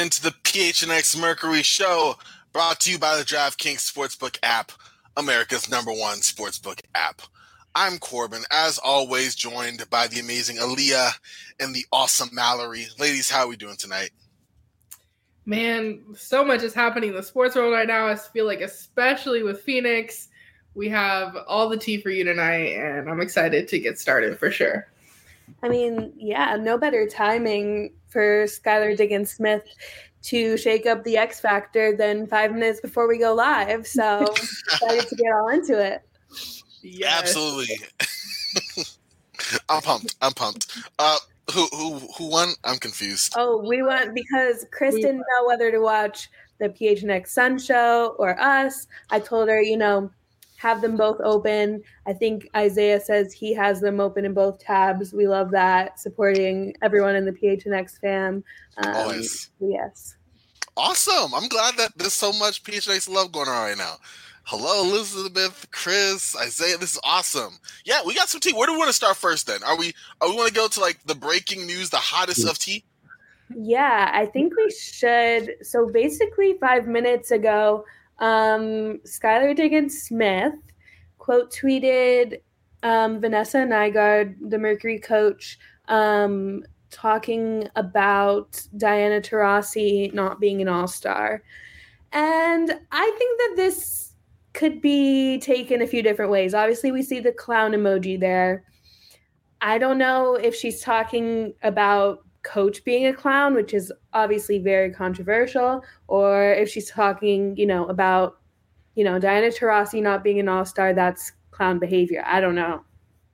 into the PHNX Mercury Show, brought to you by the DraftKings Sportsbook app, America's #1 sportsbook app. I'm Corbin, as always, joined by the amazing Aaliyah and the awesome Mallory. Ladies, how are we doing tonight? Man, so much is happening in the sports world right now. I feel like, especially with Phoenix, we have all the tea for you tonight, and I'm excited to get started for sure. I mean, yeah, no better timing for Skylar Diggins-Smith to shake up the X Factor than 5 minutes before we go live. So excited to get all into it. Yes. Absolutely. I'm pumped. Who won? I'm confused. Oh, we won because Chris didn't know whether to watch the PHNX Sun Show or us. I told her, have them both open. I think Isaiah says he has them open in both tabs. We love that, supporting everyone in the PHNX fam. Always. Yes. Awesome. I'm glad that there's so much PHNX love going on right now. Hello, Elizabeth, Chris, Isaiah. This is awesome. Yeah, we got some tea. Where do we want to start first then? Are we want to go to like the breaking news, the hottest of tea? Yeah, I think we should. So basically 5 minutes ago, Skylar Diggins-Smith quote tweeted Vanessa Nygaard, the Mercury coach, talking about Diana Taurasi not being an all-star. And I think that this could be taken a few different ways. Obviously, we see the clown emoji there. I don't know if she's talking about coach being a clown, which is obviously very controversial, or if she's talking, about, Diana Taurasi not being an all-star, that's clown behavior. I don't know.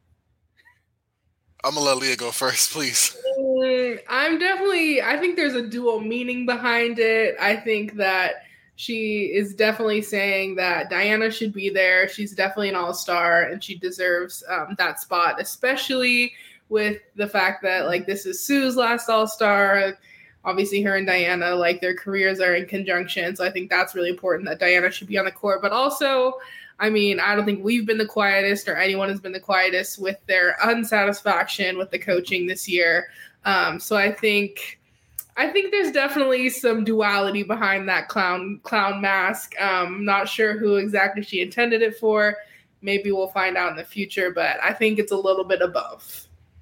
I'm going to let Leah go first, please. I think there's a dual meaning behind it. I think that she is definitely saying that Diana should be there. She's definitely an all-star, and she deserves that spot, especially with the fact that, this is Sue's last all-star. Obviously, her and Diana, their careers are in conjunction, so I think that's really important that Diana should be on the court. But also, I don't think we've been the quietest or anyone has been the quietest with their unsatisfaction with the coaching this year. So I think there's definitely some duality behind that clown mask. Not sure who exactly she intended it for. Maybe we'll find out in the future, but I think it's a little bit of both.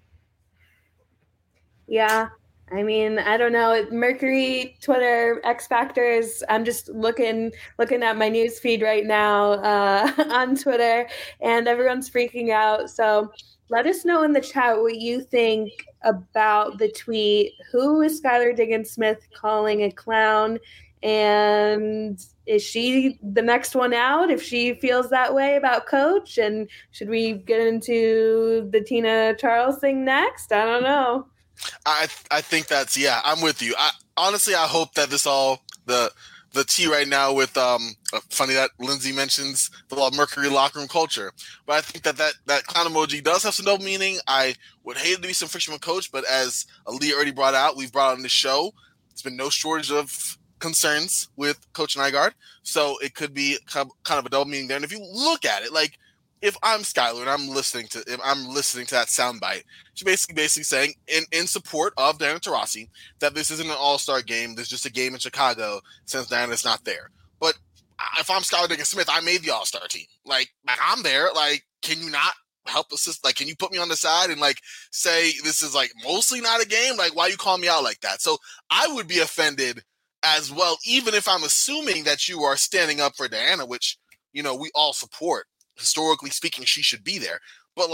Yeah. I don't know. Mercury, Twitter, X Factors. I'm just looking at my news feed right now on Twitter, and everyone's freaking out. So let us know in the chat what you think about the tweet. Who is Skylar Diggins-Smith calling a clown? And is she the next one out if she feels that way about coach? And should we get into the Tina Charles thing next? I don't know. I think that's, yeah, I'm with you. I hope that this all, the tea right now with, funny that Lindsay mentions the Mercury locker room culture, but I think that clown emoji does have some double meaning. I would hate it to be some friction with coach, but as Aaliyah already brought out, we've brought on the show, there's been no shortage of concerns with Coach Nygaard, so it could be kind of a double meaning there. And if you look at it, if I'm Skylar and I'm listening to that soundbite, she's basically saying in support of Diana Taurasi that this isn't an all-star game. There's just a game in Chicago since Diana's not there. But if I'm Skylar Diggins-Smith, I made the all-star team. I'm there. Can you not help assist? Can you put me on the side and say this is mostly not a game? Why you call me out like that? So I would be offended as well, even if I'm assuming that you are standing up for Diana, which we all support. Historically speaking, she should be there. But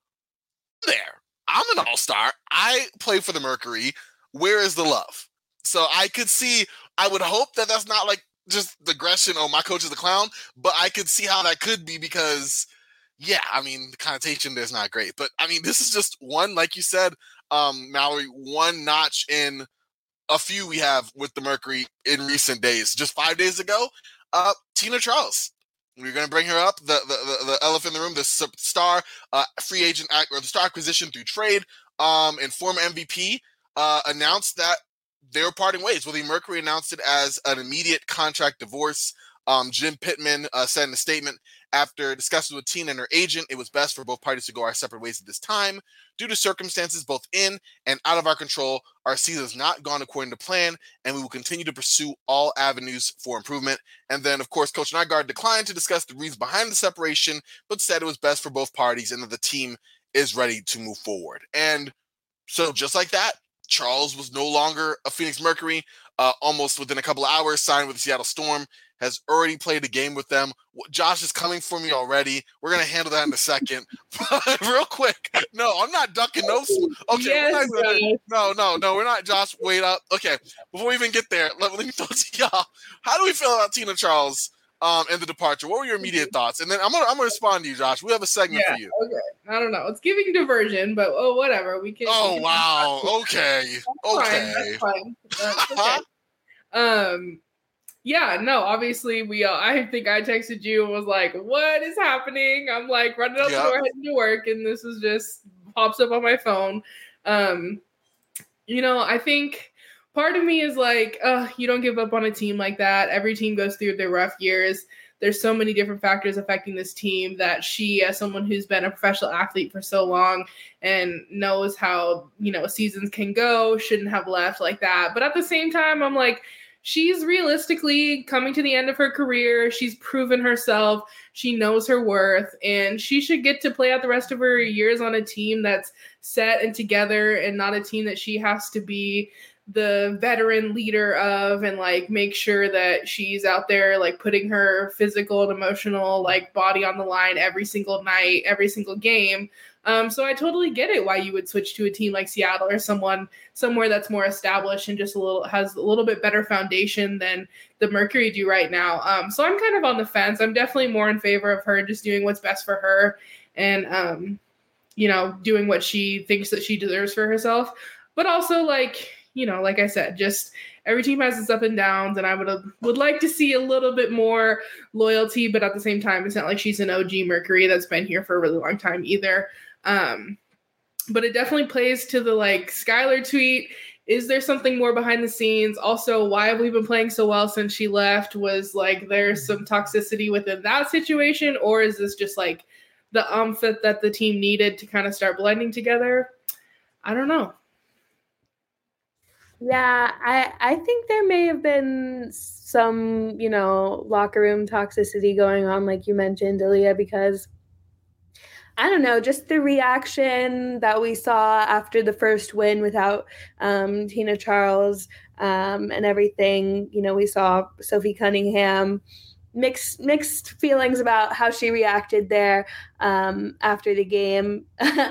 I'm an all-star. I play for the Mercury. Where is the love? So I would hope that that's not just the aggression, oh, my coach is the clown, but I could see how that could be because, yeah, the connotation there's not great. But this is just one, like you said, Mallory, one notch in a few we have with the Mercury in recent days. Just 5 days ago, Tina Charles. We're going to bring her up, the elephant in the room, the star free agent or the star acquisition through trade, and former MVP announced that they were parting ways. Well, the Mercury announced it as an immediate contract divorce. Jim Pittman said in a statement, after discussions with Tina and her agent, it was best for both parties to go our separate ways at this time. Due to circumstances both in and out of our control, our season has not gone according to plan, and we will continue to pursue all avenues for improvement. And then, of course, Coach Nygaard declined to discuss the reasons behind the separation, but said it was best for both parties and that the team is ready to move forward. And so just like that, Charles was no longer a Phoenix Mercury. Almost within a couple of hours, signed with the Seattle Storm, has already played a game with them. Josh is coming for me already. We're going to handle that in a second. Real quick. No, I'm not ducking those. Okay. Yes, no, we're not. Josh, wait up. Okay. Before we even get there, let me throw to y'all. How do we feel about Tina Charles and the departure? What were your immediate thoughts? And then I'm gonna respond to you, Josh. We have a segment for you. Okay. I don't know. It's giving diversion, but whatever. We can. Oh, wow. Okay. That's fine. That's okay. Yeah, no, obviously I think I texted you and was like, what is happening? I'm like running out the door, heading to work, and this is just pops up on my phone. I think part of me is like, you don't give up on a team like that. Every team goes through their rough years. There's so many different factors affecting this team that she, as someone who's been a professional athlete for so long and knows how, seasons can go, shouldn't have left like that. But at the same time, I'm like, she's realistically coming to the end of her career. She's proven herself. She knows her worth, and she should get to play out the rest of her years on a team that's set and together and not a team that she has to be the veteran leader of and like make sure that she's out there like putting her physical and emotional like body on the line every single night, every single game. So I totally get it why you would switch to a team like Seattle or somewhere that's more established and just has a little bit better foundation than the Mercury do right now. So I'm kind of on the fence. I'm definitely more in favor of her just doing what's best for her and doing what she thinks that she deserves for herself. But also like I said, just every team has its up and downs, and I would like to see a little bit more loyalty, but at the same time, it's not like she's an OG Mercury that's been here for a really long time either. But it definitely plays to the like Skylar tweet. Is there something more behind the scenes? Also, why have we been playing so well since she left? Was like there's some toxicity within that situation, or is this just like the that the team needed to kind of start blending together? I don't know. Yeah, I think there may have been some, locker room toxicity going on, like you mentioned, Aaliyah, because I don't know, just the reaction that we saw after the first win without Tina Charles and everything. We saw Sophie Cunningham, mixed feelings about how she reacted there after the game,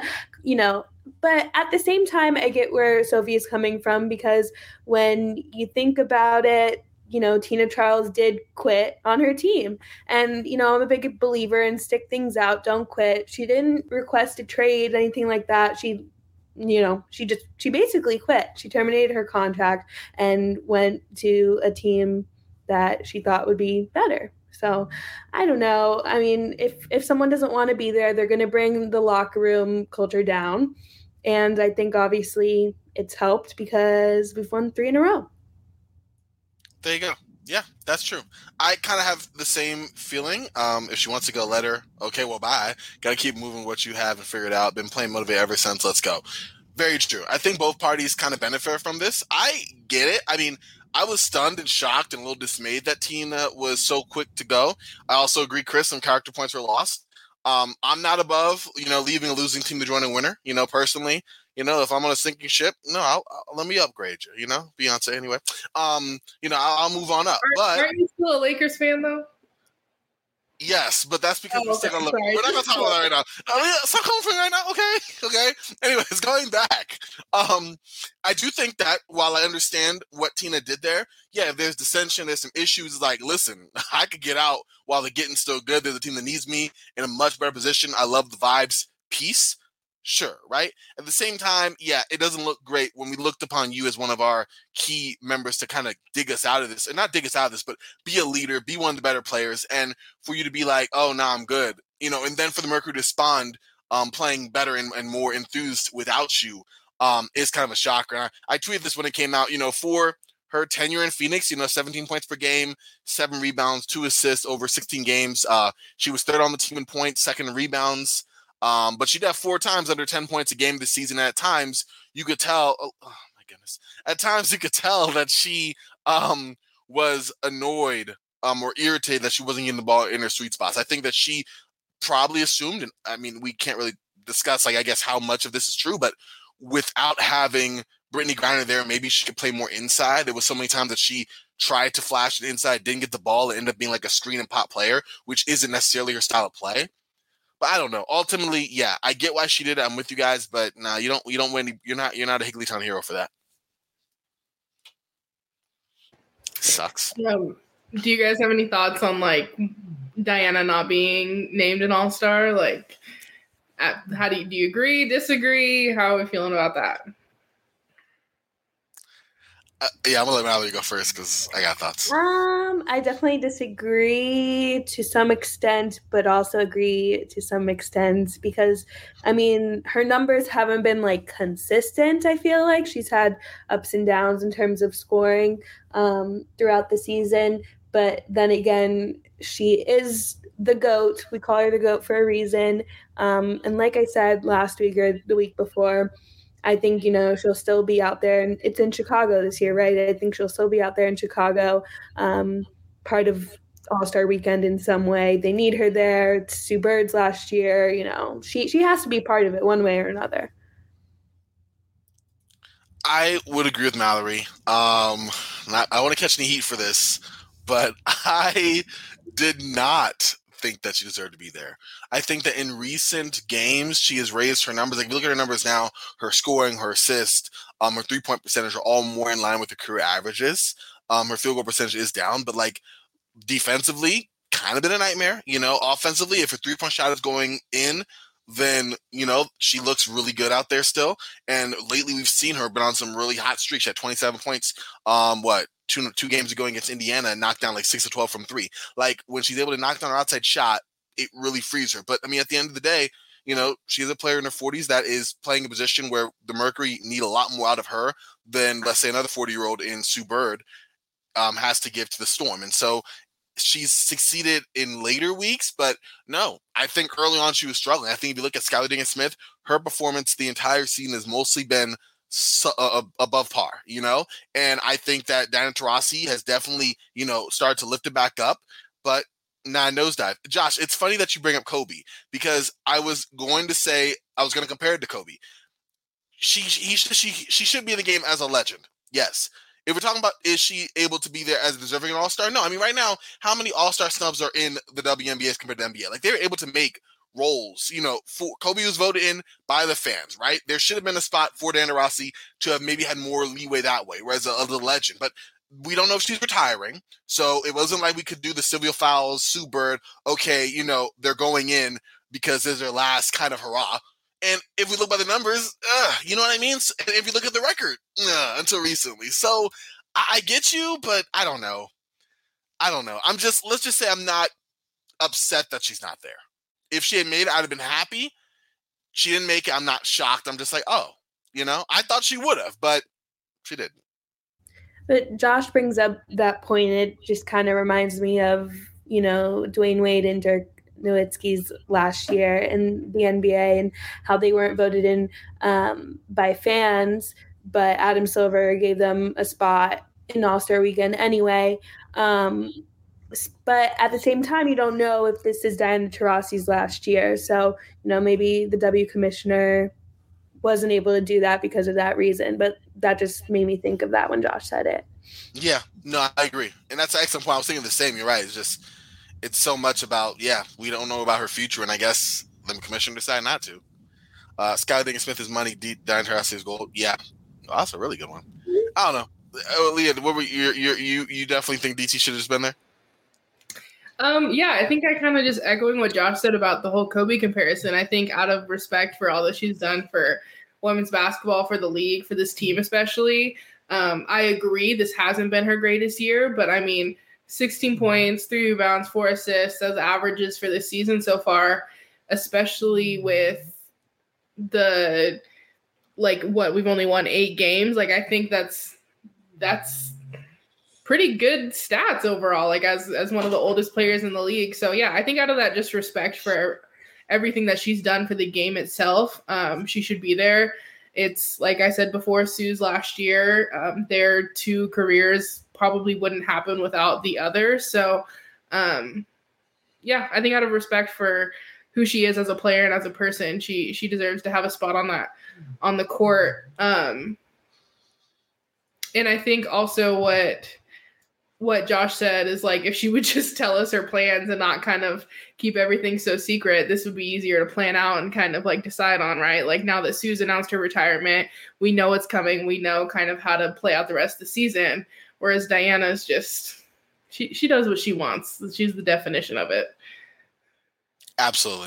But at the same time, I get where Sophie is coming from, because when you think about it, Tina Charles did quit on her team. And, I'm a big believer in stick things out, don't quit. She didn't request a trade, anything like that. She basically quit. She terminated her contract and went to a team that she thought would be better. So I don't know. I mean, if someone doesn't want to be there, they're going to bring the locker room culture down. And I think obviously it's helped because we've won 3 in a row. There you go. Yeah, that's true. I kind of have the same feeling. If she wants to go, let her. Okay, well, bye. Got to keep moving what you have and figure it out. Been playing Motivate ever since. Let's go. Very true. I think both parties kind of benefit from this. I get it. I mean, I was stunned and shocked and a little dismayed that Tina was so quick to go. I also agree, Chris, some character points were lost. I'm not above, leaving a losing team to join a winner, personally. If I'm on a sinking ship, I'll let me upgrade you, Beyonce anyway. I'll move on up. Aren't you still a Lakers fan though? Yes, but that's because we're not going to talk about that right now. Stop coming for me right now, okay? Anyways, going back, I do think that while I understand what Tina did there, yeah, if there's dissension, there's some issues, like, listen, I could get out while the getting's still good. There's a team that needs me in a much better position. I love the vibes piece. Sure, right? At the same time, yeah, it doesn't look great when we looked upon you as one of our key members to kind of dig us out of this, and not dig us out of this, but be a leader, be one of the better players, and for you to be like, oh, no, I'm good, and then for the Mercury to respond playing better and more enthused without you is kind of a shocker. And I tweeted this when it came out, for her tenure in Phoenix, 17 points per game, 7 rebounds, 2 assists over 16 games. She was third on the team in points, second in rebounds. But she did have 4 times under 10 points a game this season. And at times you could tell, oh my goodness, at times you could tell that she was annoyed or irritated that she wasn't getting the ball in her sweet spots. I think that she probably assumed, and I mean, we can't really discuss, I guess, how much of this is true, but without having Brittany Griner there, maybe she could play more inside. There was so many times that she tried to flash it inside, didn't get the ball, and ended up being like a screen and pop player, which isn't necessarily her style of play. But I don't know. Ultimately, yeah, I get why she did it. I'm with you guys, but no, you don't win. You're not a Higglytown hero for that. Sucks. Do you guys have any thoughts on like Diana not being named an All-Star? Like, how do you agree, disagree? How are we feeling about that? Yeah, I'm gonna let Mallory go first because I got thoughts. I definitely disagree to some extent, but also agree to some extent because, I mean, her numbers haven't been like consistent. I feel like she's had ups and downs in terms of scoring throughout the season, but then again, she is the GOAT. We call her the GOAT for a reason. And like I said last week or the week before, I think, she'll still be out there. And it's in Chicago this year, right? I think she'll still be out there in Chicago, part of All-Star Weekend in some way. They need her there. It's Sue Bird's last year. She has to be part of it one way or another. I would agree with Mallory. I want to catch any heat for this, but I did not think that she deserved to be there. I think that in recent games, she has raised her numbers. Like, if you look at her numbers now, her scoring, her assist, her 3-point percentage are all more in line with her career averages. Her field goal percentage is down, but like defensively, kind of been a nightmare. Offensively, if her 3-point shot is going in, then, she looks really good out there still. And lately we've seen her been on some really hot streaks. She had 27 points, two games ago against Indiana and knocked down like 6 of 12 from 3. Like, when she's able to knock down her outside shot, it really frees her. But I mean, at the end of the day, she is a player in her 40s that is playing a position where the Mercury need a lot more out of her than, let's say, another 40-year-old in Sue Bird has to give to the Storm. And so she's succeeded in later weeks, but no, I think early on she was struggling. I think if you look at Skylar Diggins-Smith, her performance the entire season has mostly been above par, and I think that Diana Taurasi has definitely, started to lift it back up, but nosedive. Josh, it's funny that you bring up Kobe because I was going to compare it to Kobe. She should be in the game as a legend. Yes. If we're talking about, is she able to be there as deserving an All-Star? No. I mean, right now, how many All-Star snubs are in the WNBA as compared to NBA? Like, they were able to make roles. For Kobe was voted in by the fans, right? There should have been a spot for Diana Taurasi to have maybe had more leeway that way, whereas the legend. But we don't know if she's retiring, so it wasn't like we could do the Sylvia Fowles, Sue Bird. Okay, they're going in because this is their last kind of hurrah. And if we look by the numbers, you know what I mean? If you look at the record, until recently. So I get you, but I don't know. Let's just say I'm not upset that she's not there. If she had made it, I'd have been happy. She didn't make it. I'm not shocked. I'm just like, I thought she would have, but she didn't. But Josh brings up that point. It just kind of reminds me of, Dwayne Wade and Dirk Nowitzki's last year in the NBA and how they weren't voted in by fans, but Adam Silver gave them a spot in All-Star Weekend anyway. But at the same time, you don't know if this is Diana Taurasi's last year. So, maybe the W commissioner wasn't able to do that because of that reason. But that just made me think of that when Josh said it. Yeah, no, I agree. And that's an excellent point. I was thinking the same. You're right. It's so much about, we don't know about her future. And I guess the commissioner decided not to. Skylar Diggins-Smith is money. Diana Taurasi is gold. Yeah. Oh, that's a really good one. I don't know. Leah, what were you definitely think DT should have just been there? Yeah, I think I kind of just echoing what Josh said about the whole Kobe comparison. I think out of respect for all that she's done for women's basketball, for the league, for this team especially, I agree this hasn't been her greatest year, but I mean, 16 points, 3 rebounds, 4 assists, those averages for this season so far, especially with we've only won 8 games. Like, I think that's pretty good stats overall, like as one of the oldest players in the league. So yeah, I think out of that just respect for everything that she's done for the game itself, she should be there. It's like I said before, Sue's last year, their two careers probably wouldn't happen without the other. So yeah, I think out of respect for who she is as a player and as a person, she deserves to have a spot on the court. And I think also what Josh said is like, if she would just tell us her plans and not kind of keep everything so secret, this would be easier to plan out and kind of like decide on, right? Like now that Sue's announced her retirement, we know it's coming. We know kind of how to play out the rest of the season. Whereas Diana's just, she does what she wants. She's the definition of it. Absolutely.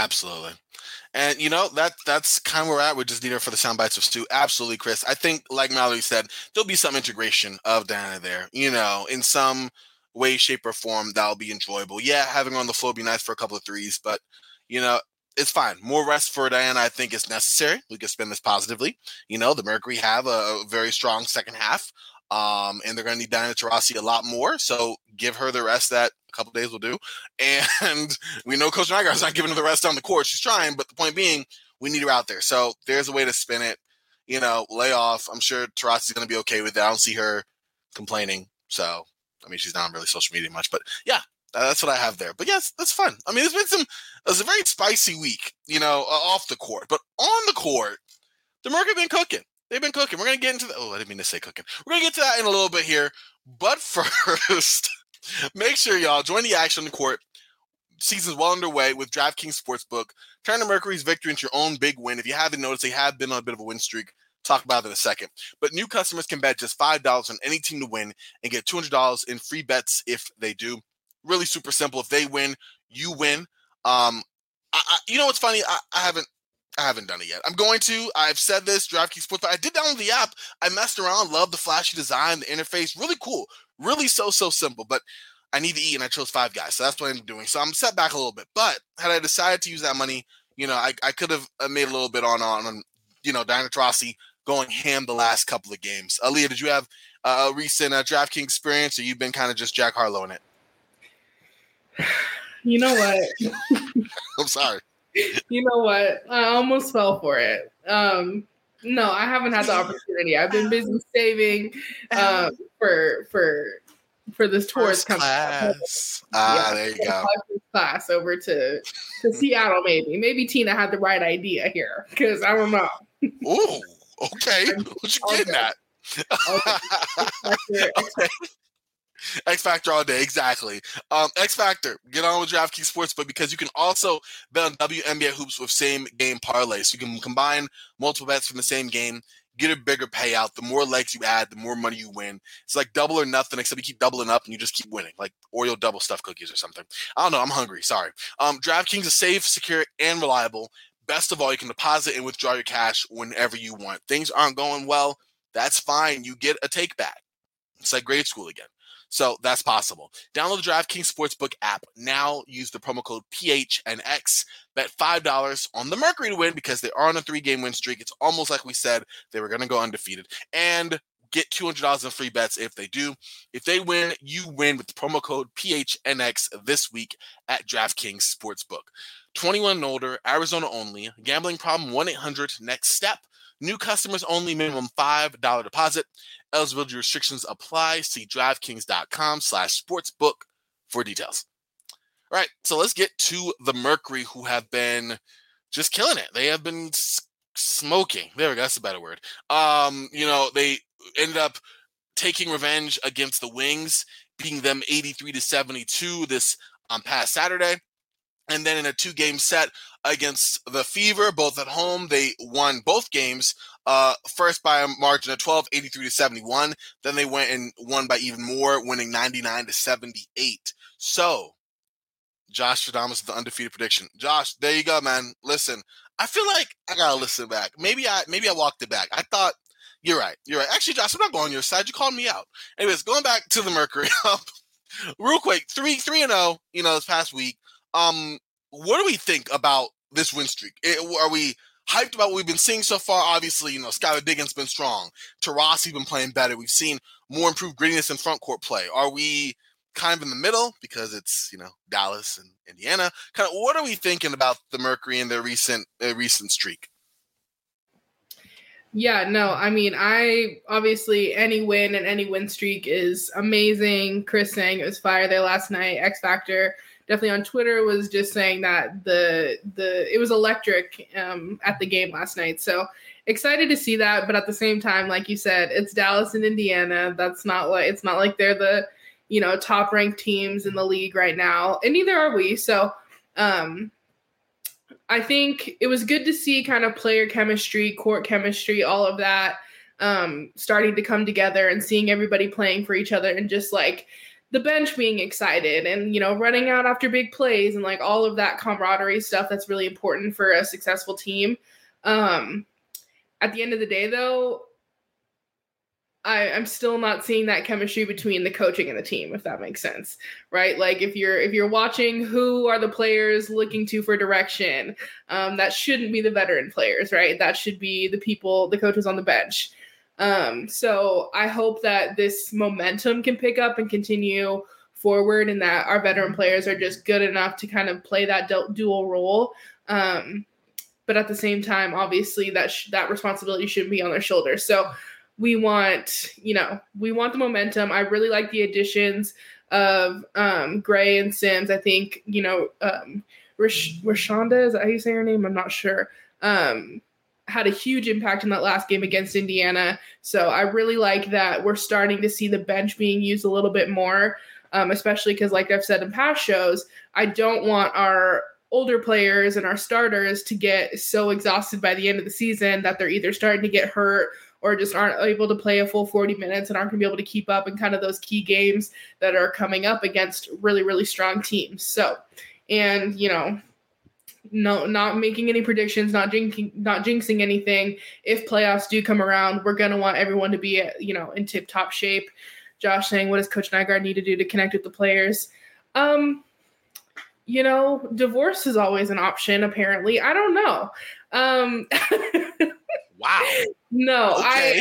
And, that's kind of where we're at. We just need her for the sound bites of Stu. Absolutely, Chris. I think, like Mallory said, there'll be some integration of Diana there, in some way, shape, or form that'll be enjoyable. Yeah, having her on the floor would be nice for a couple of threes, but, it's fine. More rest for Diana, I think, is necessary. We can spin this positively. The Mercury have a very strong second half, and they're going to need Diana Taurasi a lot more, so give her the rest that a couple days will do. And we know Coach Nygaard's not giving her the rest on the court. She's trying, but the point being, we need her out there. So there's a way to spin it, lay off. I'm sure Taurasi's going to be okay with that. I don't see her complaining. So, she's not on really social media much, but yeah, that's what I have there. But yes, that's fun. It was a very spicy week, off the court, but on the court, the Mercury have been cooking. They've been cooking. We're going to get into I didn't mean to say cooking. We're going to get to that in a little bit here. But first, make sure y'all join the action on the court. Season's well underway with DraftKings Sportsbook. Turn the Mercury's victory into your own big win. If you haven't noticed, they have been on a bit of a win streak. Talk about it in a second. But new customers can bet just $5 on any team to win and get $200 in free bets if they do. Really super simple. If they win, you win. What's funny? I haven't done it yet. I'm going to. I've said this, DraftKings Sportsbook. I did download the app. I messed around. Love the flashy design, the interface. Really cool. Really so simple. But I need to eat, and I chose Five Guys. So that's what I'm doing. So I'm set back a little bit. But had I decided to use that money, I could have made a little bit on Diana Taurasi going ham the last couple of games. Aaliyah, did you have a recent DraftKings experience, or you've been kind of just Jack Harlow in it? You know what? I'm sorry. You know what? I almost fell for it. No, I haven't had the opportunity. I've been busy saving for this tour coming. Class. There you go. Class over to Seattle, maybe Tina had the right idea here, because I don't know. Ooh, okay. What you getting at? Okay. X Factor all day, exactly. X Factor, get on with DraftKings Sportsbook, because you can also bet on WNBA hoops with same game parlay. So you can combine multiple bets from the same game, get a bigger payout. The more legs you add, the more money you win. It's like double or nothing, except you keep doubling up and you just keep winning, like Oreo double stuffed cookies or something. I don't know. I'm hungry. Sorry. DraftKings is safe, secure, and reliable. Best of all, you can deposit and withdraw your cash whenever you want. Things aren't going well. That's fine. You get a take back. It's like grade school again. So that's possible. Download the DraftKings Sportsbook app. Now use the promo code PHNX. Bet $5 on the Mercury to win, because they are on a 3-game win streak. It's almost like we said they were going to go undefeated. And get $200 in free bets if they do. If they win, you win with the promo code PHNX this week at DraftKings Sportsbook. 21 and older, Arizona only. Gambling problem, 1-800-NEXT-STEP. New customers only, minimum $5 deposit. Eligibility restrictions apply. See DraftKings.com/sportsbook for details. All right, so let's get to the Mercury, who have been just killing it. They have been smoking. There we go. That's a better word. They ended up taking revenge against the Wings, beating them 83-72 this past Saturday. And then in a 2-game set against the Fever, both at home, they won both games. First by a margin of 12, 83-71. Then they went and won by even more, winning 99-78. So, Josh Stradamus, the undefeated prediction. Josh, there you go, man. Listen, I feel like I gotta listen back. Maybe I walked it back. I thought you're right. Actually, Josh, I'm not going on your side. You called me out. Anyways, going back to the Mercury, real quick, 3-0. This past week. What do we think about this win streak? Are we hyped about what we've been seeing so far? Obviously, Skylar Diggins been strong. Taurasi been playing better. We've seen more improved grittiness in front court play? Are we kind of in the middle because it's, Dallas and Indiana? Kind of, what are we thinking about the Mercury and their recent streak? Yeah, no, I mean, obviously any win and any win streak is amazing. Chris saying it was fire there last night. X Factor definitely on Twitter was just saying that it was electric at the game last night. So excited to see that, but at the same time, like you said, it's Dallas and Indiana. It's not like they're the top ranked teams in the league right now, and neither are we. So I think it was good to see kind of player chemistry, court chemistry, all of that starting to come together, and seeing everybody playing for each other, and just like the bench being excited and, running out after big plays, and like all of that camaraderie stuff that's really important for a successful team. At the end of the day, though, I'm still not seeing that chemistry between the coaching and the team, if that makes sense, right? Like if you're watching, who are the players looking to for direction? That shouldn't be the veteran players, right? That should be the coaches on the bench. So I hope that this momentum can pick up and continue forward, and that our veteran players are just good enough to kind of play that dual role. But at the same time, obviously that responsibility shouldn't be on their shoulders. So we want the momentum. I really like the additions of Gray and Sims. I think, Rashonda, is that how you say her name? I'm not sure. Had a huge impact in that last game against Indiana. So I really like that we're starting to see the bench being used a little bit more, especially because, like I've said in past shows, I don't want our older players and our starters to get so exhausted by the end of the season that they're either starting to get hurt or just aren't able to play a full 40 minutes and aren't going to be able to keep up in kind of those key games that are coming up against really, really strong teams. So, and, not making any predictions, not jinxing anything. If playoffs do come around, we're going to want everyone to be, in tip-top shape. Josh saying, what does Coach Nygaard need to do to connect with the players? Divorce is always an option, apparently. I don't know. Wow. No, okay.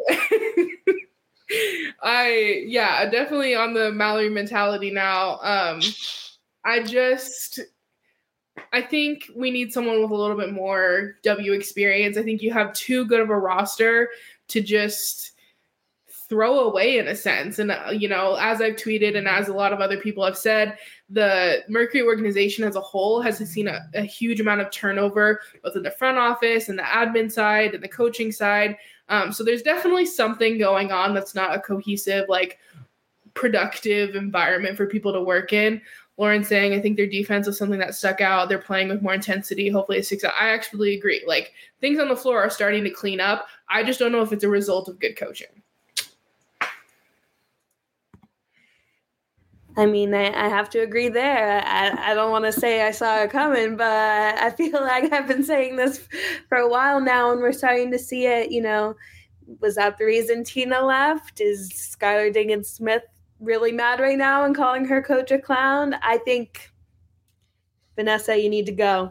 I definitely on the Mallory mentality now. I think we need someone with a little bit more W experience. I think you have too good of a roster to just throw away, in a sense. And, as I've tweeted and as a lot of other people have said, the Mercury organization as a whole has seen a huge amount of turnover, both in the front office and the admin side and the coaching side. So there's definitely something going on that's not a cohesive, like, productive environment for people to work in. Lauren saying, I think their defense was something that stuck out. They're playing with more intensity. Hopefully it sticks out. I actually agree. Like, things on the floor are starting to clean up. I just don't know if it's a result of good coaching. I mean, I have to agree there. I don't want to say I saw it coming, but I feel like I've been saying this for a while now, and we're starting to see it. Was that the reason Tina left? Is Skylar Diggins-Smith really mad right now and calling her coach a clown? I think, Vanessa, you need to go.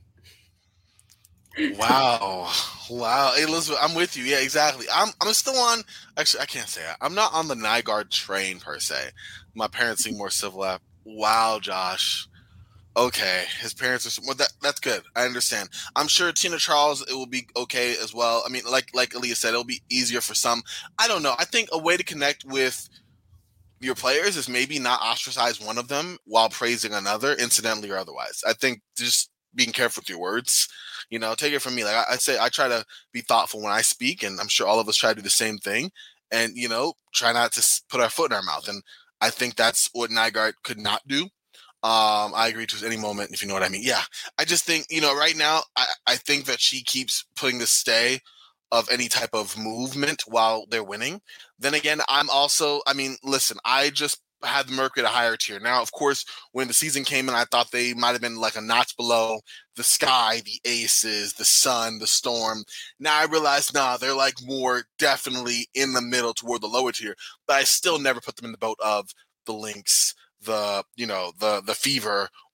Wow. Hey, Elizabeth, I'm with you. Yeah, exactly. I'm still on. Actually, I can't say that. I'm not on the Nygaard train per se. My parents seem more civil. Wow, Josh. Okay, his parents are. Well, that's good. I understand. I'm sure Tina Charles, it will be okay as well. I mean, like Aaliyah said, it'll be easier for some. I don't know. I think a way to connect with your players is maybe not ostracize one of them while praising another, incidentally or otherwise. I think just being careful with your words. Take it from me. Like I say, I try to be thoughtful when I speak, and I'm sure all of us try to do the same thing. And try not to put our foot in our mouth. And I think that's what Nygaard could not do. I agree to any moment, if you know what I mean. Yeah, I just think right now, I think that she keeps putting the stay of any type of movement while they're winning. Then again, listen, I just had the Mercury at a higher tier. Now, of course, when the season came in, I thought they might have been like a notch below the Sky, the Aces, the Sun, the Storm. Now I realize, they're like more definitely in the middle toward the lower tier, but I still never put them in the boat of the Lynx, the Fever,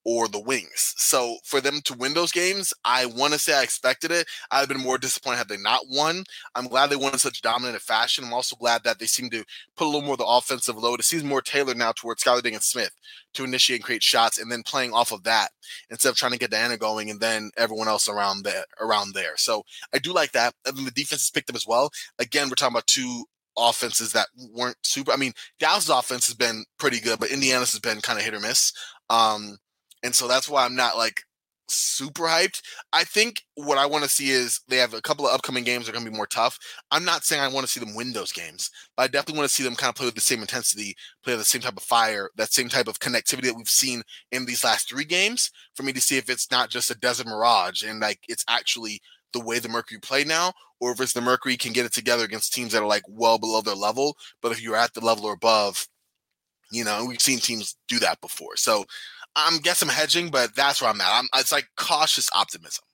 or the Wings. So for them to win those games, I want to say I expected it. I'd have been more disappointed had they not won. I'm glad they won in such dominant fashion. I'm also glad that they seem to put a little more of the offensive load. It seems more tailored now towards Skylar Diggins-Smith to initiate and create shots, and then playing off of that instead of trying to get Diana going and then everyone else around there. So I do like that. And then the defense has picked up as well. Again, we're talking about two offenses that weren't super. I mean, Dallas' offense has been pretty good, but Indiana's has been kind of hit or miss. And so that's why I'm not like super hyped. I think what I want to see is they have a couple of upcoming games that are going to be more tough. I'm not saying I want to see them win those games, but I definitely want to see them kind of play with the same intensity, play with the same type of fire, that same type of connectivity that we've seen in these last 3 games, for me to see if it's not just a desert mirage and like it's actually the way the Mercury play now, or if it's the Mercury can get it together against teams that are like well below their level. But if you're at the level or above, we've seen teams do that before. So I'm guessing I'm hedging, but that's where I'm at. It's like cautious optimism.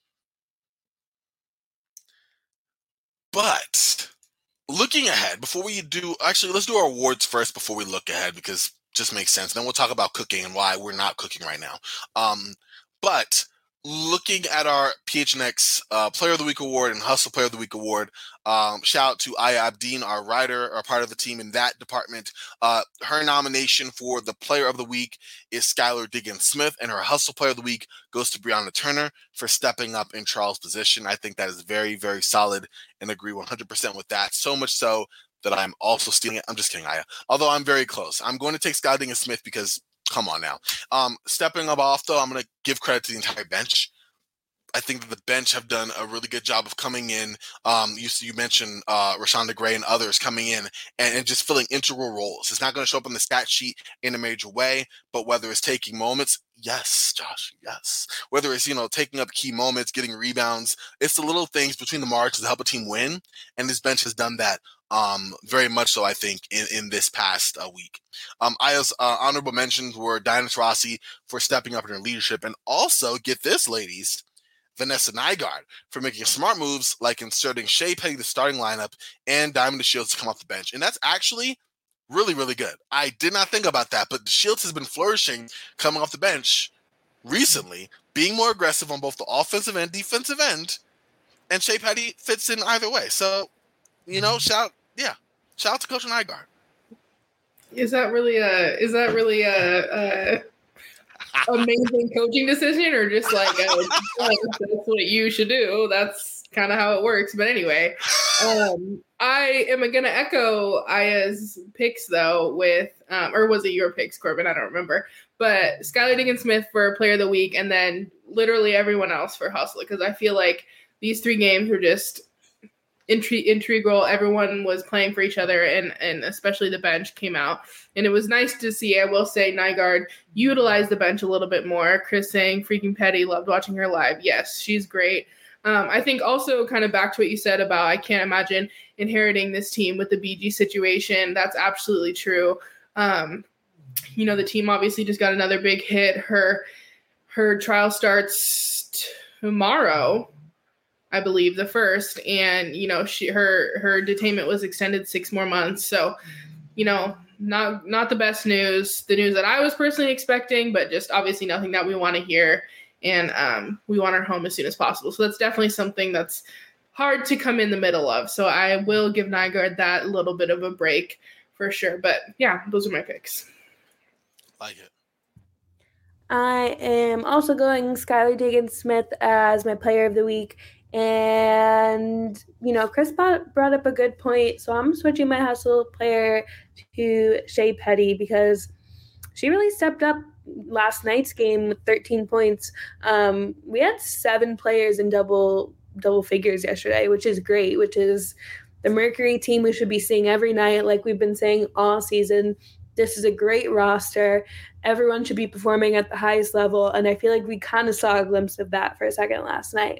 But looking ahead, before we let's do our awards first before we look ahead, because it just makes sense. Then we'll talk about cooking and why we're not cooking right now. But looking at our PHNX Player of the Week award and Hustle Player of the Week award, shout out to Aya Abdeen, our writer, our part of the team in that department. Her nomination for the Player of the Week is Skylar Diggins-Smith, and her Hustle Player of the Week goes to Brianna Turner for stepping up in Charles' position. I think that is very, very solid and agree 100% with that. So much so that I'm also stealing it. I'm just kidding, Aya. Although I'm very close. I'm going to take Skylar Diggins-Smith because come on now. Stepping up off, though, I'm going to give credit to the entire bench. I think that the bench have done a really good job of coming in. You mentioned Rashonda Gray and others coming in and just filling integral roles. It's not going to show up on the stat sheet in a major way, but whether it's taking moments, yes, Josh, yes. Whether it's, taking up key moments, getting rebounds, it's the little things between the marks to help a team win, and this bench has done that very much so, I think, in this past week. Aya's honorable mentions were Diana Taurasi for stepping up in her leadership, and also, get this, ladies, Vanessa Nygaard for making smart moves like inserting Shea Petty the starting lineup and Diamond DeShields to come off the bench. And that's actually really, really good. I did not think about that, but DeShields has been flourishing coming off the bench recently, being more aggressive on both the offensive and defensive end, and Shea Petty fits in either way. So, shout out to Coach Nygaard. Is that really a amazing coaching decision, or just like that's what you should do? That's kind of how it works. But anyway, I am going to echo Aya's picks though with, or was it your picks, Corbin? I don't remember. But Skylar Diggins-Smith for Player of the Week, and then literally everyone else for Hustle, because I feel like these 3 games were just integral. Everyone was playing for each other, and especially the bench came out. And it was nice to see, I will say, Nygaard utilize the bench a little bit more. Chris saying freaking Petty, loved watching her live. Yes, she's great. I think also kind of back to what you said about I can't imagine inheriting this team with the BG situation. That's absolutely true. The team obviously just got another big hit. Her trial starts tomorrow, I believe, the 1st, and her detainment was extended 6 more months. So, not the best news. The news that I was personally expecting, but just obviously nothing that we want to hear, and we want her home as soon as possible. So that's definitely something that's hard to come in the middle of. So I will give Nygaard that little bit of a break for sure. But yeah, those are my picks. Like it. I am also going Skylar Diggins-Smith as my Player of the Week. And, Chris brought up a good point. So I'm switching my Hustle player to Shea Petty because she really stepped up last night's game with 13 points. We had 7 players in double figures yesterday, which is great, which is the Mercury team we should be seeing every night, like we've been saying all season. This is a great roster. Everyone should be performing at the highest level. And I feel like we kind of saw a glimpse of that for a second last night.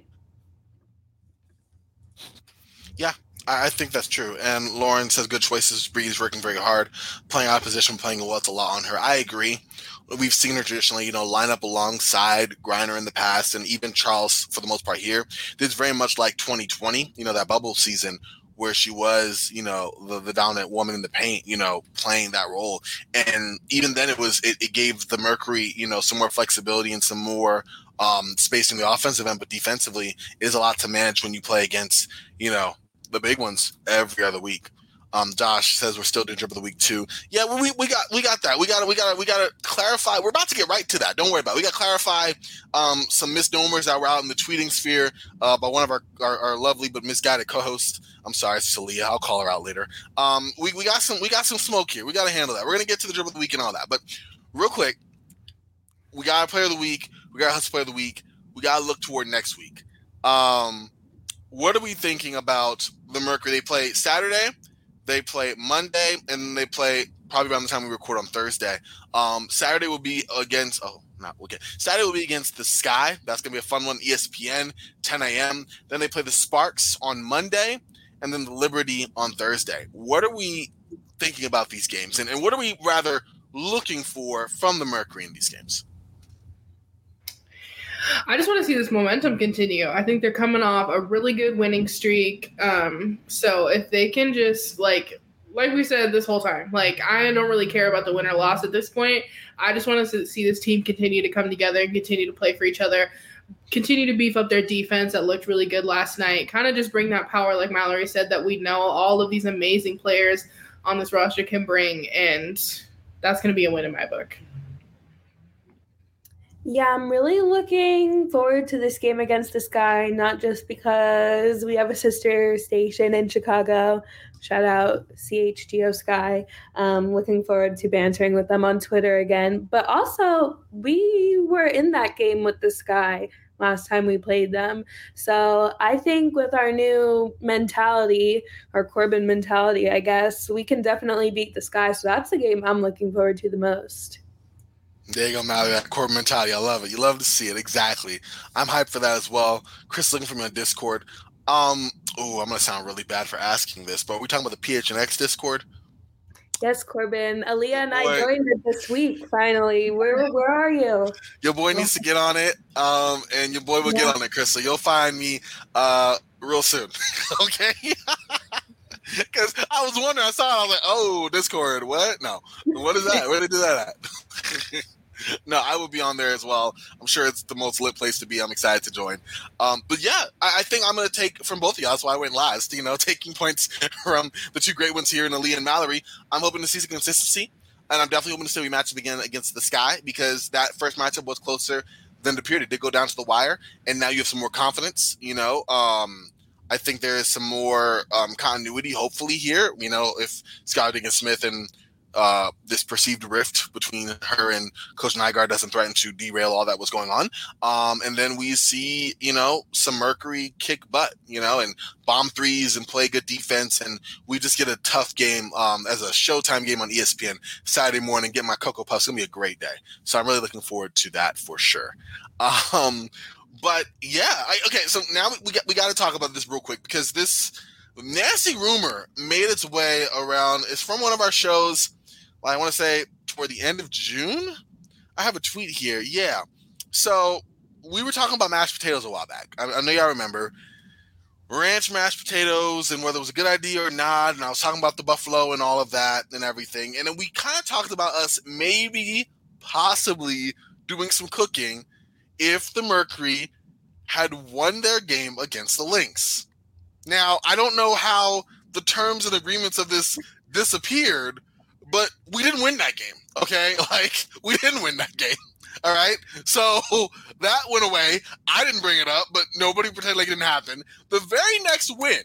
Yeah, I think that's true. And Lauren says good choices. Bree's working very hard, playing out of position, playing well. It's a lot on her. I agree. We've seen her traditionally, line up alongside Griner in the past, and even Charles for the most part here. This is very much like 2020, that bubble season where she was, the dominant woman in the paint, playing that role. And even then it gave the Mercury, some more flexibility and some more space in the offensive end, but defensively it is a lot to manage when you play against, the big ones every other week. Josh says we're still doing drip of the week too. Yeah, we got that. We got to clarify. We're about to get right to that. Don't worry about it. We got to clarify some misnomers that were out in the tweeting sphere by one of our lovely but misguided co-hosts. I'm sorry, Celia. I'll call her out later. We got some smoke here. We got to handle that. We're gonna get to the drip of the week and all that. But real quick, we got a player of the week. We got a hustle player of the week. We got to look toward next week. What are we thinking about the Mercury? They play Saturday. They play Monday, and they play probably around the time we record on Thursday. Saturday will be against Saturday will be against the Sky. That's gonna be a fun one. ESPN, 10 a.m. Then they play the Sparks on Monday, and then the Liberty on Thursday. What are we thinking about these games, and what are we rather looking for from the Mercury in these games? I just want to see this momentum continue. I think they're coming off a really good winning streak. So if they can just like we said this whole time, I don't really care about the win or loss at this point. I just want to see this team continue to come together and continue to play for each other, continue to beef up their defense that looked really good last night, kind of just bring that power, like Mallory said, that we know all of these amazing players on this roster can bring. And that's going to be a win in my book. Yeah, I'm really looking forward to this game against the Sky, not just because we have a sister station in Chicago. Shout out CHGO Sky. Looking forward to bantering with them on Twitter again. But also, we were in that game with the Sky last time we played them. So I think with our new mentality, our Corbin mentality, I guess, we can definitely beat the Sky. So that's the game I'm looking forward to the most. There you go, Mallory. That core mentality. I love it. You love to see it. Exactly. I'm hyped for that as well. Chris looking for me on Discord. I'm going to sound really bad for asking this, but are we talking about the PHNX Discord? Yes, Corbin. Aaliyah and I joined it this week, finally. Where are you? Your boy needs to get on it, and your boy will get on it, Chris. So you'll find me real soon. Okay? Because I was wondering, I saw it, I was like, oh, Discord, what? No. What is that? Where did they do that at? No, I will be on there as well. I'm sure it's the most lit place to be. I'm excited to join. But yeah, I think I'm going to take from both of y'all. That's why I went last, taking points from the two great ones here in Aaliyah and Mallory. I'm hoping to see some consistency, and I'm definitely hoping to see we match up again against the Sky, because that first matchup was closer than the period. It did go down to the wire, and now you have some more confidence, I think there is some more continuity, hopefully, here. If Skylar Diggins-Smith and this perceived rift between her and Coach Nygaard doesn't threaten to derail all that was going on. And then we see, some Mercury kick butt, and bomb threes and play good defense. And we just get a tough game as a Showtime game on ESPN Saturday morning, get my Cocoa Puffs. It's going to be a great day. So I'm really looking forward to that for sure. But yeah, okay. So now we got to talk about this real quick, because this nasty rumor made its way around. It's from one of our shows. I want to say toward the end of June. I have a tweet here. Yeah. So we were talking about mashed potatoes a while back. I know y'all remember ranch mashed potatoes and whether it was a good idea or not. And I was talking about the buffalo and all of that and everything. And then we kind of talked about us maybe possibly doing some cooking if the Mercury had won their game against the Lynx. Now, I don't know how the terms and agreements of this disappeared, but we didn't win that game, okay? We didn't win that game, all right? So that went away. I didn't bring it up, but nobody pretended like it didn't happen. The very next win,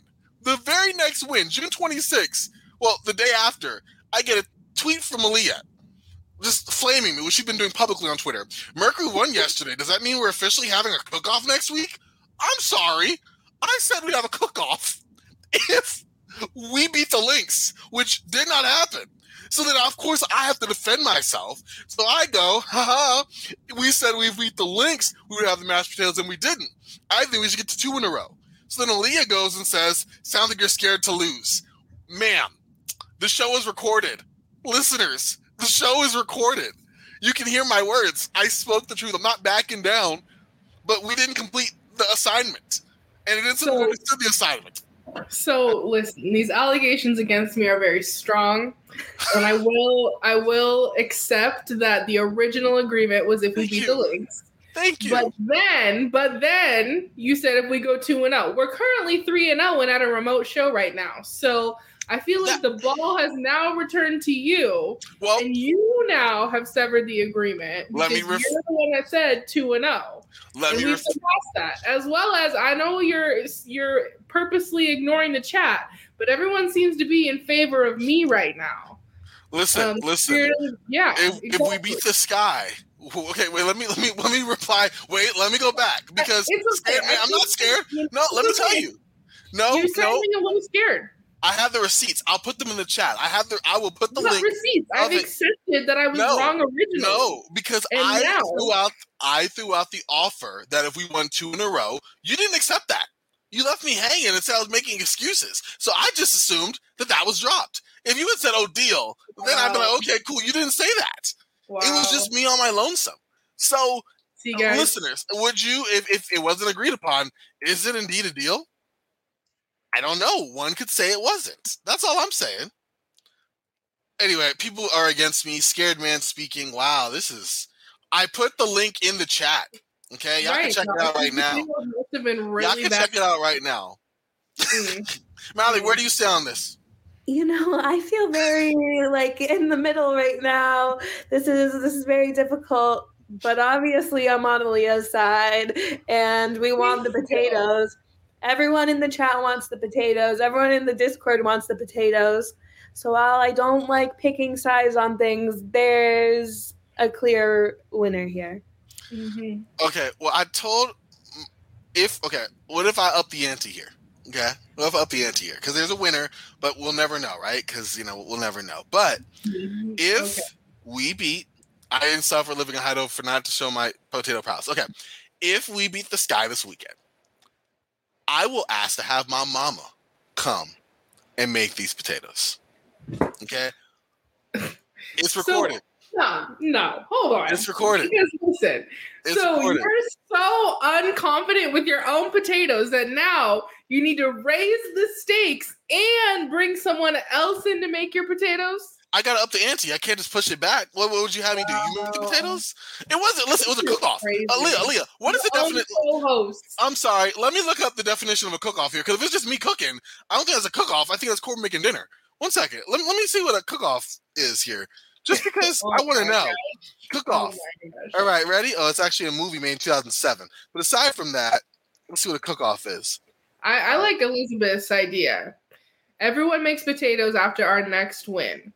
June 26th, well, the day after, I get a tweet from Aaliyah, just flaming me, which she's been doing publicly on Twitter. Mercury won yesterday. Does that mean we're officially having a cook-off next week? I'm sorry. I said we'd have a cook-off if we beat the Lynx, which did not happen. So then, of course, I have to defend myself. So I go, we said we beat the Lynx, we would have the mashed potatoes, and we didn't. I think we should get to 2 in a row. So then Aaliyah goes and says, sounds like you're scared to lose. Ma'am, the show is recorded. Listeners, the show is recorded. You can hear my words. I spoke the truth. I'm not backing down, but we didn't complete the assignment. And it isn't the assignment. So listen, these allegations against me are very strong, and I will accept that the original agreement was if we beat the Lynx. Thank you. But then you said if we go 2-0. We're currently 3-0 and at a remote show right now. So I feel like the ball has now returned to you, and you now have severed the agreement. You're the one that said 2-0. And we've surpassed that, as well as I know you're purposely ignoring the chat, but everyone seems to be in favor of me right now. Listen. Yeah. If we beat the Sky, okay. Wait. Let me reply. Wait. Let me go back because okay. I'm not scared. No. Let me tell you. No. You're sounding a little scared. I have the receipts. I'll put them in the chat. I will put the link. Receipts. I've accepted that I was wrong originally. No, because I threw out the offer that if we won 2 in a row, you didn't accept that. You left me hanging and said I was making excuses. So I just assumed that was dropped. If you had said, "Oh, deal," then I'd be like, "Okay, cool." You didn't say that. Wow. It was just me on my lonesome. So, listeners, would you, if it wasn't agreed upon, is it indeed a deal? I don't know. One could say it wasn't. That's all I'm saying. Anyway, people are against me. Scared man speaking. Wow, I put the link in the chat. Okay, y'all can check it out right now. Y'all can check it out right now. Mally, where do you stand on this? I feel very in the middle right now. This is very difficult, but obviously I'm on Aaliyah's side, and we want the potatoes. Everyone in the chat wants the potatoes. Everyone in the Discord wants the potatoes. So while I don't like picking sides on things, there's a clear winner here. Mm-hmm. Okay. Well, what if I up the ante here? Okay. What if I up the ante here? Because there's a winner, but we'll never know, right? Because, we'll never know. But if we beat, I didn't suffer living in Heidelberg for not to show my potato prowess. Okay. If we beat the Sky this weekend, I will ask to have my mama come and make these potatoes. Okay? It's recorded. No, hold on. It's recorded. Listen. Recorded. You're so unconfident with your own potatoes that now you need to raise the stakes and bring someone else in to make your potatoes? I got to up the ante. I can't just push it back. What would you have me do? You make the potatoes? It was a cook-off. Aaliyah, what is the definition? I'm sorry. Let me look up the definition of a cook-off here, because if it's just me cooking, I don't think that's a cook-off. I think that's Corbin making dinner. 1 second. Let me see what a cook-off is here. Just because I want to know. Cook-off. All right, ready? Oh, it's actually a movie made in 2007. But aside from that, let's see what a cook-off is. I like Elizabeth's idea. Everyone makes potatoes after our next win.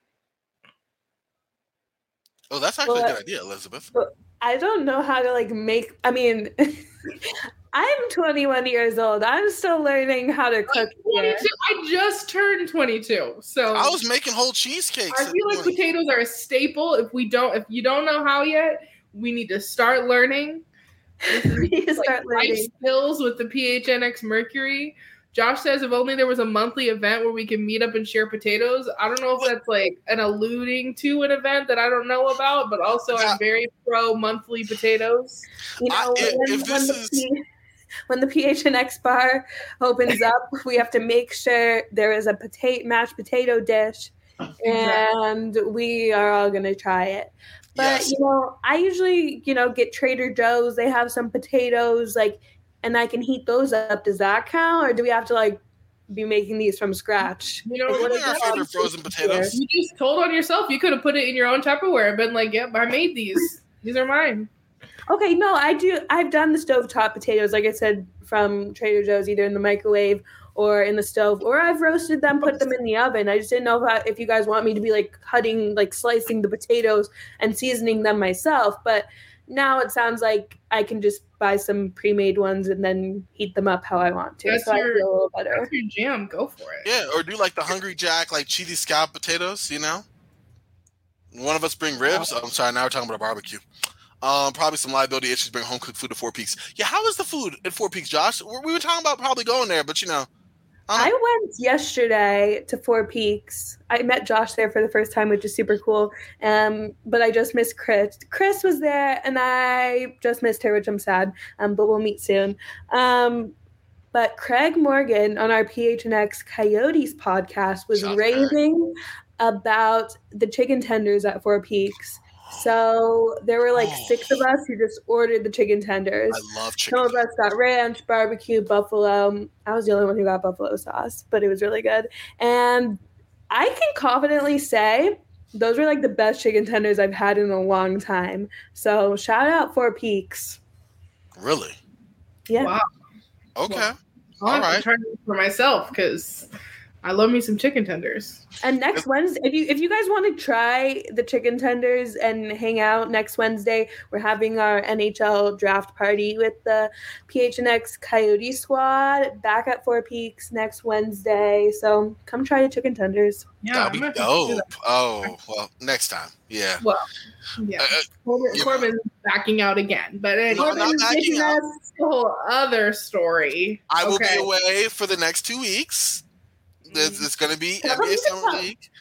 Oh, that's actually a good idea, Elizabeth. I don't know how to make. I mean, I'm 21 years old. I'm still learning how to cook. I just turned 22, so I was making whole cheesecakes. I feel like potatoes are a staple. If you don't know how yet, we need to start learning. We need to start learning life skills with the PHNX Mercury. Josh says if only there was a monthly event where we can meet up and share potatoes. I don't know if that's an alluding to an event that I don't know about, but also I'm very pro monthly potatoes. When the PHNX bar opens up, we have to make sure there is a mashed potato dish, and we are all going to try it. But, I usually, get Trader Joe's. They have some potatoes, and I can heat those up. Does that count? Or do we have to be making these from scratch? What are our favorite frozen potatoes? You just told on yourself. You could have put it in your own Tupperware and been like, yep, I made these. These are mine. Okay, no, I do. I've done the stovetop potatoes, like I said, from Trader Joe's, either in the microwave or in the stove, or I've roasted them, put them in the oven. I just didn't know if you guys want me to be cutting, slicing the potatoes and seasoning them myself. But now it sounds like I can just buy some pre-made ones and then heat them up how I want to. I feel a little better. That's your jam. Go for it. Yeah, or do the Hungry Jack, cheesy scallop potatoes, One of us bring ribs. I'm sorry, now we're talking about a barbecue. Probably some liability issues. Bring home cooked food to Four Peaks. Yeah, how is the food at Four Peaks, Josh? We were talking about probably going there, but I went yesterday to Four Peaks. I met Josh there for the first time, which is super cool. But I just missed Chris. Chris was there, and I just missed her, which I'm sad. But we'll meet soon. But Craig Morgan on our PHNX Coyotes podcast was Shout out raving about the chicken tenders at Four Peaks. So there were like 6 of us who just ordered the chicken tenders. I love chicken. Some of us got ranch, barbecue, buffalo. I was the only one who got buffalo sauce, but it was really good. And I can confidently say those were like the best chicken tenders I've had in a long time. So shout out Four Peaks. Really? Yeah. Wow. Okay. Well, All I'll have right. to try it for myself because I love me some chicken tenders. And next Wednesday, if you guys want to try the chicken tenders and hang out next Wednesday, we're having our NHL draft party with the PHNX Coyote squad back at Four Peaks next Wednesday. So come try the chicken tenders. Yeah, That'd be I'm gonna have to do dope. that. Oh, well, next time. Yeah. Well, yeah. Corbin's backing out again, but anyway, No, not backing out. that's a whole other story. I will Okay. be away for the next 2 weeks. It's going to be Tell NBA them Summer to League.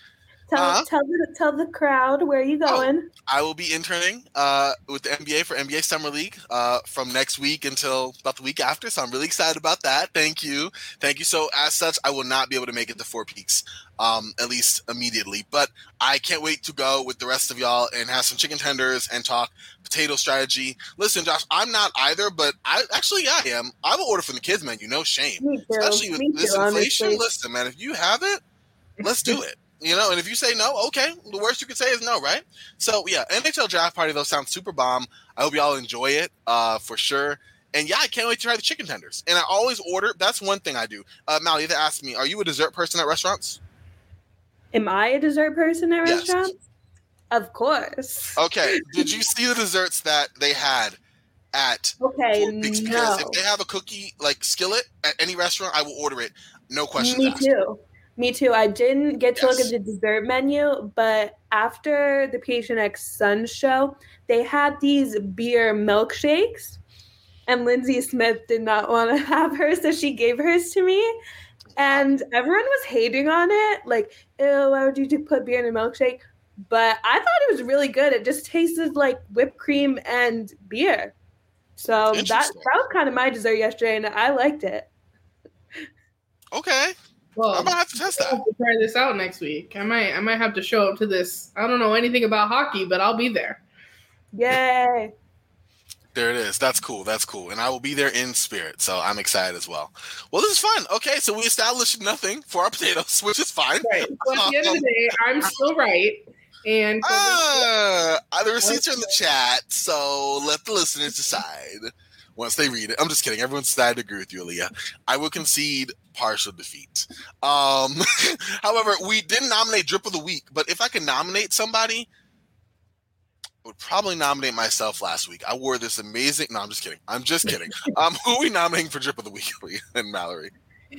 Tell the crowd where you going. I will be interning with the NBA for NBA Summer League from next week until about the week after. So I'm really excited about that. Thank you. So as such, I will not be able to make it to Four Peaks, at least immediately. But I can't wait to go with the rest of y'all and have some chicken tenders and talk potato strategy. Listen, Josh, I'm not either, but I am. I will order from the kids menu, no shame. Me too. Especially with Me this too, inflation. honestly. Listen, man, if you have it, let's do it. And if you say no, okay. The worst you could say is no, right? So, yeah, NHL Draft Party, though, sounds super bomb. I hope y'all enjoy it for sure. And, yeah, I can't wait to try the chicken tenders. And I always order. That's one thing I do. Mal, you have to ask me, are you a dessert person at restaurants? Am I a dessert person at Yes. restaurants? Of course. Okay. Did you see the desserts that they had at Okay, Four Peaks? no. Because if they have a cookie, like, skillet at any restaurant, I will order it. No questions Me asked. too. Me too. I didn't get to look Yes. at the dessert menu, but after the PHNX Sun show, they had these beer milkshakes, and Lindsay Smith did not want to have hers, so she gave hers to me. And everyone was hating on it, like, ew, why would you put beer in a milkshake? But I thought it was really good. It just tasted like whipped cream and beer. So that Interesting. was kind of my dessert yesterday, and I liked it. Okay. Well, I'm going to have to test I'll that. have to try this out next week. I might have to show up to this. I don't know anything about hockey, but I'll be there. Yay. There it is. That's cool. And I will be there in spirit. So I'm excited as well. Well, this is fun. Okay. So we established nothing for our potatoes, which is fine. Right. So at the end of the day, I'm still right. And The receipts are in the chat. So let the listeners decide once they read it. I'm just kidding. Everyone's decided to agree with you, Aaliyah. I will concede partial defeat. However, we didn't nominate Drip of the Week. But if I could nominate somebody, I would probably nominate myself last week. I wore this amazing. No, I'm just kidding. Who are we nominating for Drip of the Week, Leah and Mallory?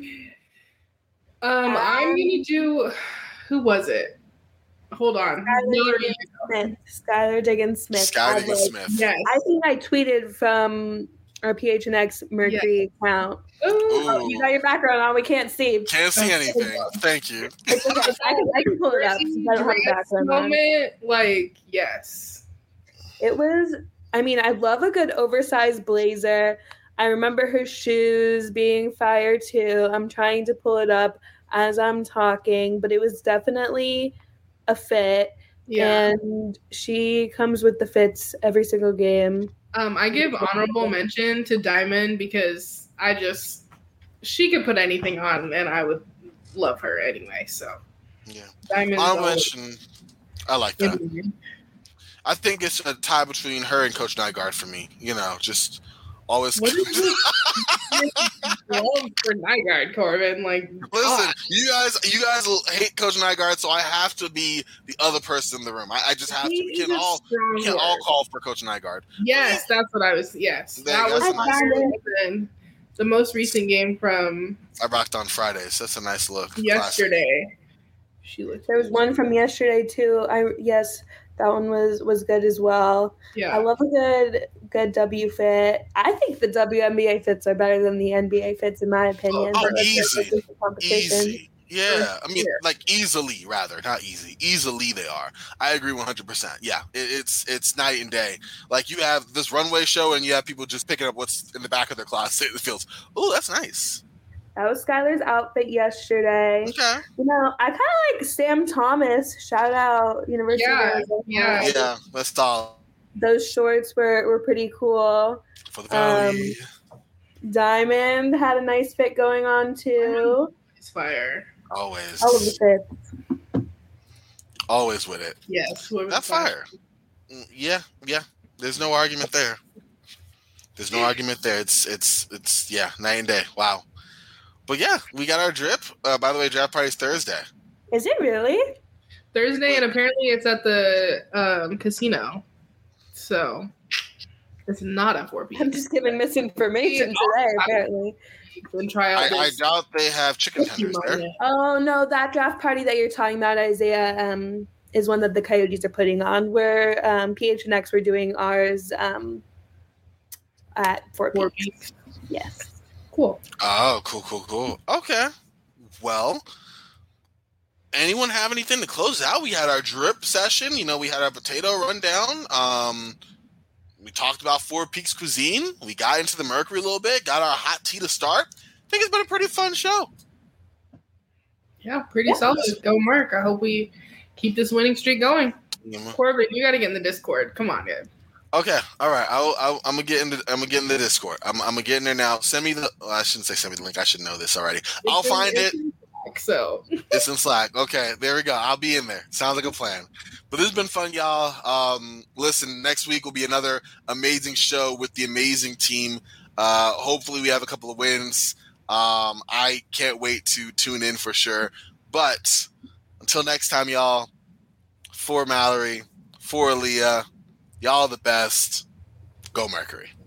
I'm gonna do. Who was it? Hold on. Skylar Diggins Smith. Skylar Diggins Smith. Yes. I think I tweeted from our PHNX Mercury account. Ooh. You got your background on. We can't see. Can't see anything. Thank you. It's okay. I can pull it up since I don't have the background on. Moment, like, yes. It was, I mean, I love a good oversized blazer. I remember her shoes being fire too. I'm trying to pull it up as I'm talking, but it was definitely a fit. Yeah. And she comes with the fits every single game. I give honorable mention to Diamond because she could put anything on and I would love her anyway. So Yeah. Diamond. Honorable mention. I like that. I think it's a tie between her and Coach Nygaard for me. Just always. What is love for Nygaard, Corbin? Like, listen, you guys hate Coach Nygaard, so I have to be the other person in the room. I just have to. We can all call for Coach Nygaard. Yes, that's what I was. Yes, that was the most recent game from. I rocked on Fridays. That's a nice look. Yesterday. She looked. There was one from yesterday too. That one was good as well. Yeah. I love a good W fit. I think the WNBA fits are better than the NBA fits in my opinion. Easy. Yeah, I mean, like easily, rather not easy. Easily, they are. I agree 100%. Yeah, it's night and day. Like you have this runway show, and you have people just picking up what's in the back of their closet. It feels, oh, that's nice. That was Skylar's outfit yesterday. Okay. You know, I kind of like Sam Thomas. Shout out University of Arizona. Yeah, that's all. Those shorts were pretty cool. For the Valley. Diamond had a nice fit going on too. It's fire. Always. All of the fits. Always with it. Yes. That's fire. Yeah. There's no argument there. It's night and day. Wow. But yeah, we got our drip. By the way, draft party's Thursday. Is it really? Thursday, and apparently it's at the casino. So it's not at 4 p.m. I'm just giving misinformation today, apparently. I doubt they have chicken tenders there. Oh, no, that draft party that you're talking about, Isaiah, is one that the Coyotes are putting on, where PHNX were doing ours at 4 p.m. Yes. Cool. Oh, cool. Okay. Well, anyone have anything to close out? We had our drip session. You know, we had our potato rundown. We talked about Four Peaks cuisine. We got into the Mercury a little bit. Got our hot tea to start. I think it's been a pretty fun show. Yeah, pretty solid. Go Merc. I hope we keep this winning streak going. Corbin, you got to get in the Discord. Come on, dude. Okay, all right. I'm gonna get in the Discord. I'm gonna get in there now. Send me the. Well, I shouldn't say send me the link. I should know this already. I'll find it. So it's in Slack. Okay, there we go. I'll be in there. Sounds like a plan. But this has been fun, y'all. Listen, next week will be another amazing show with the amazing team. Hopefully, we have a couple of wins. I can't wait to tune in for sure. But until next time, y'all. For Mallory, for Aaliyah. Y'all the best. Go Mercury.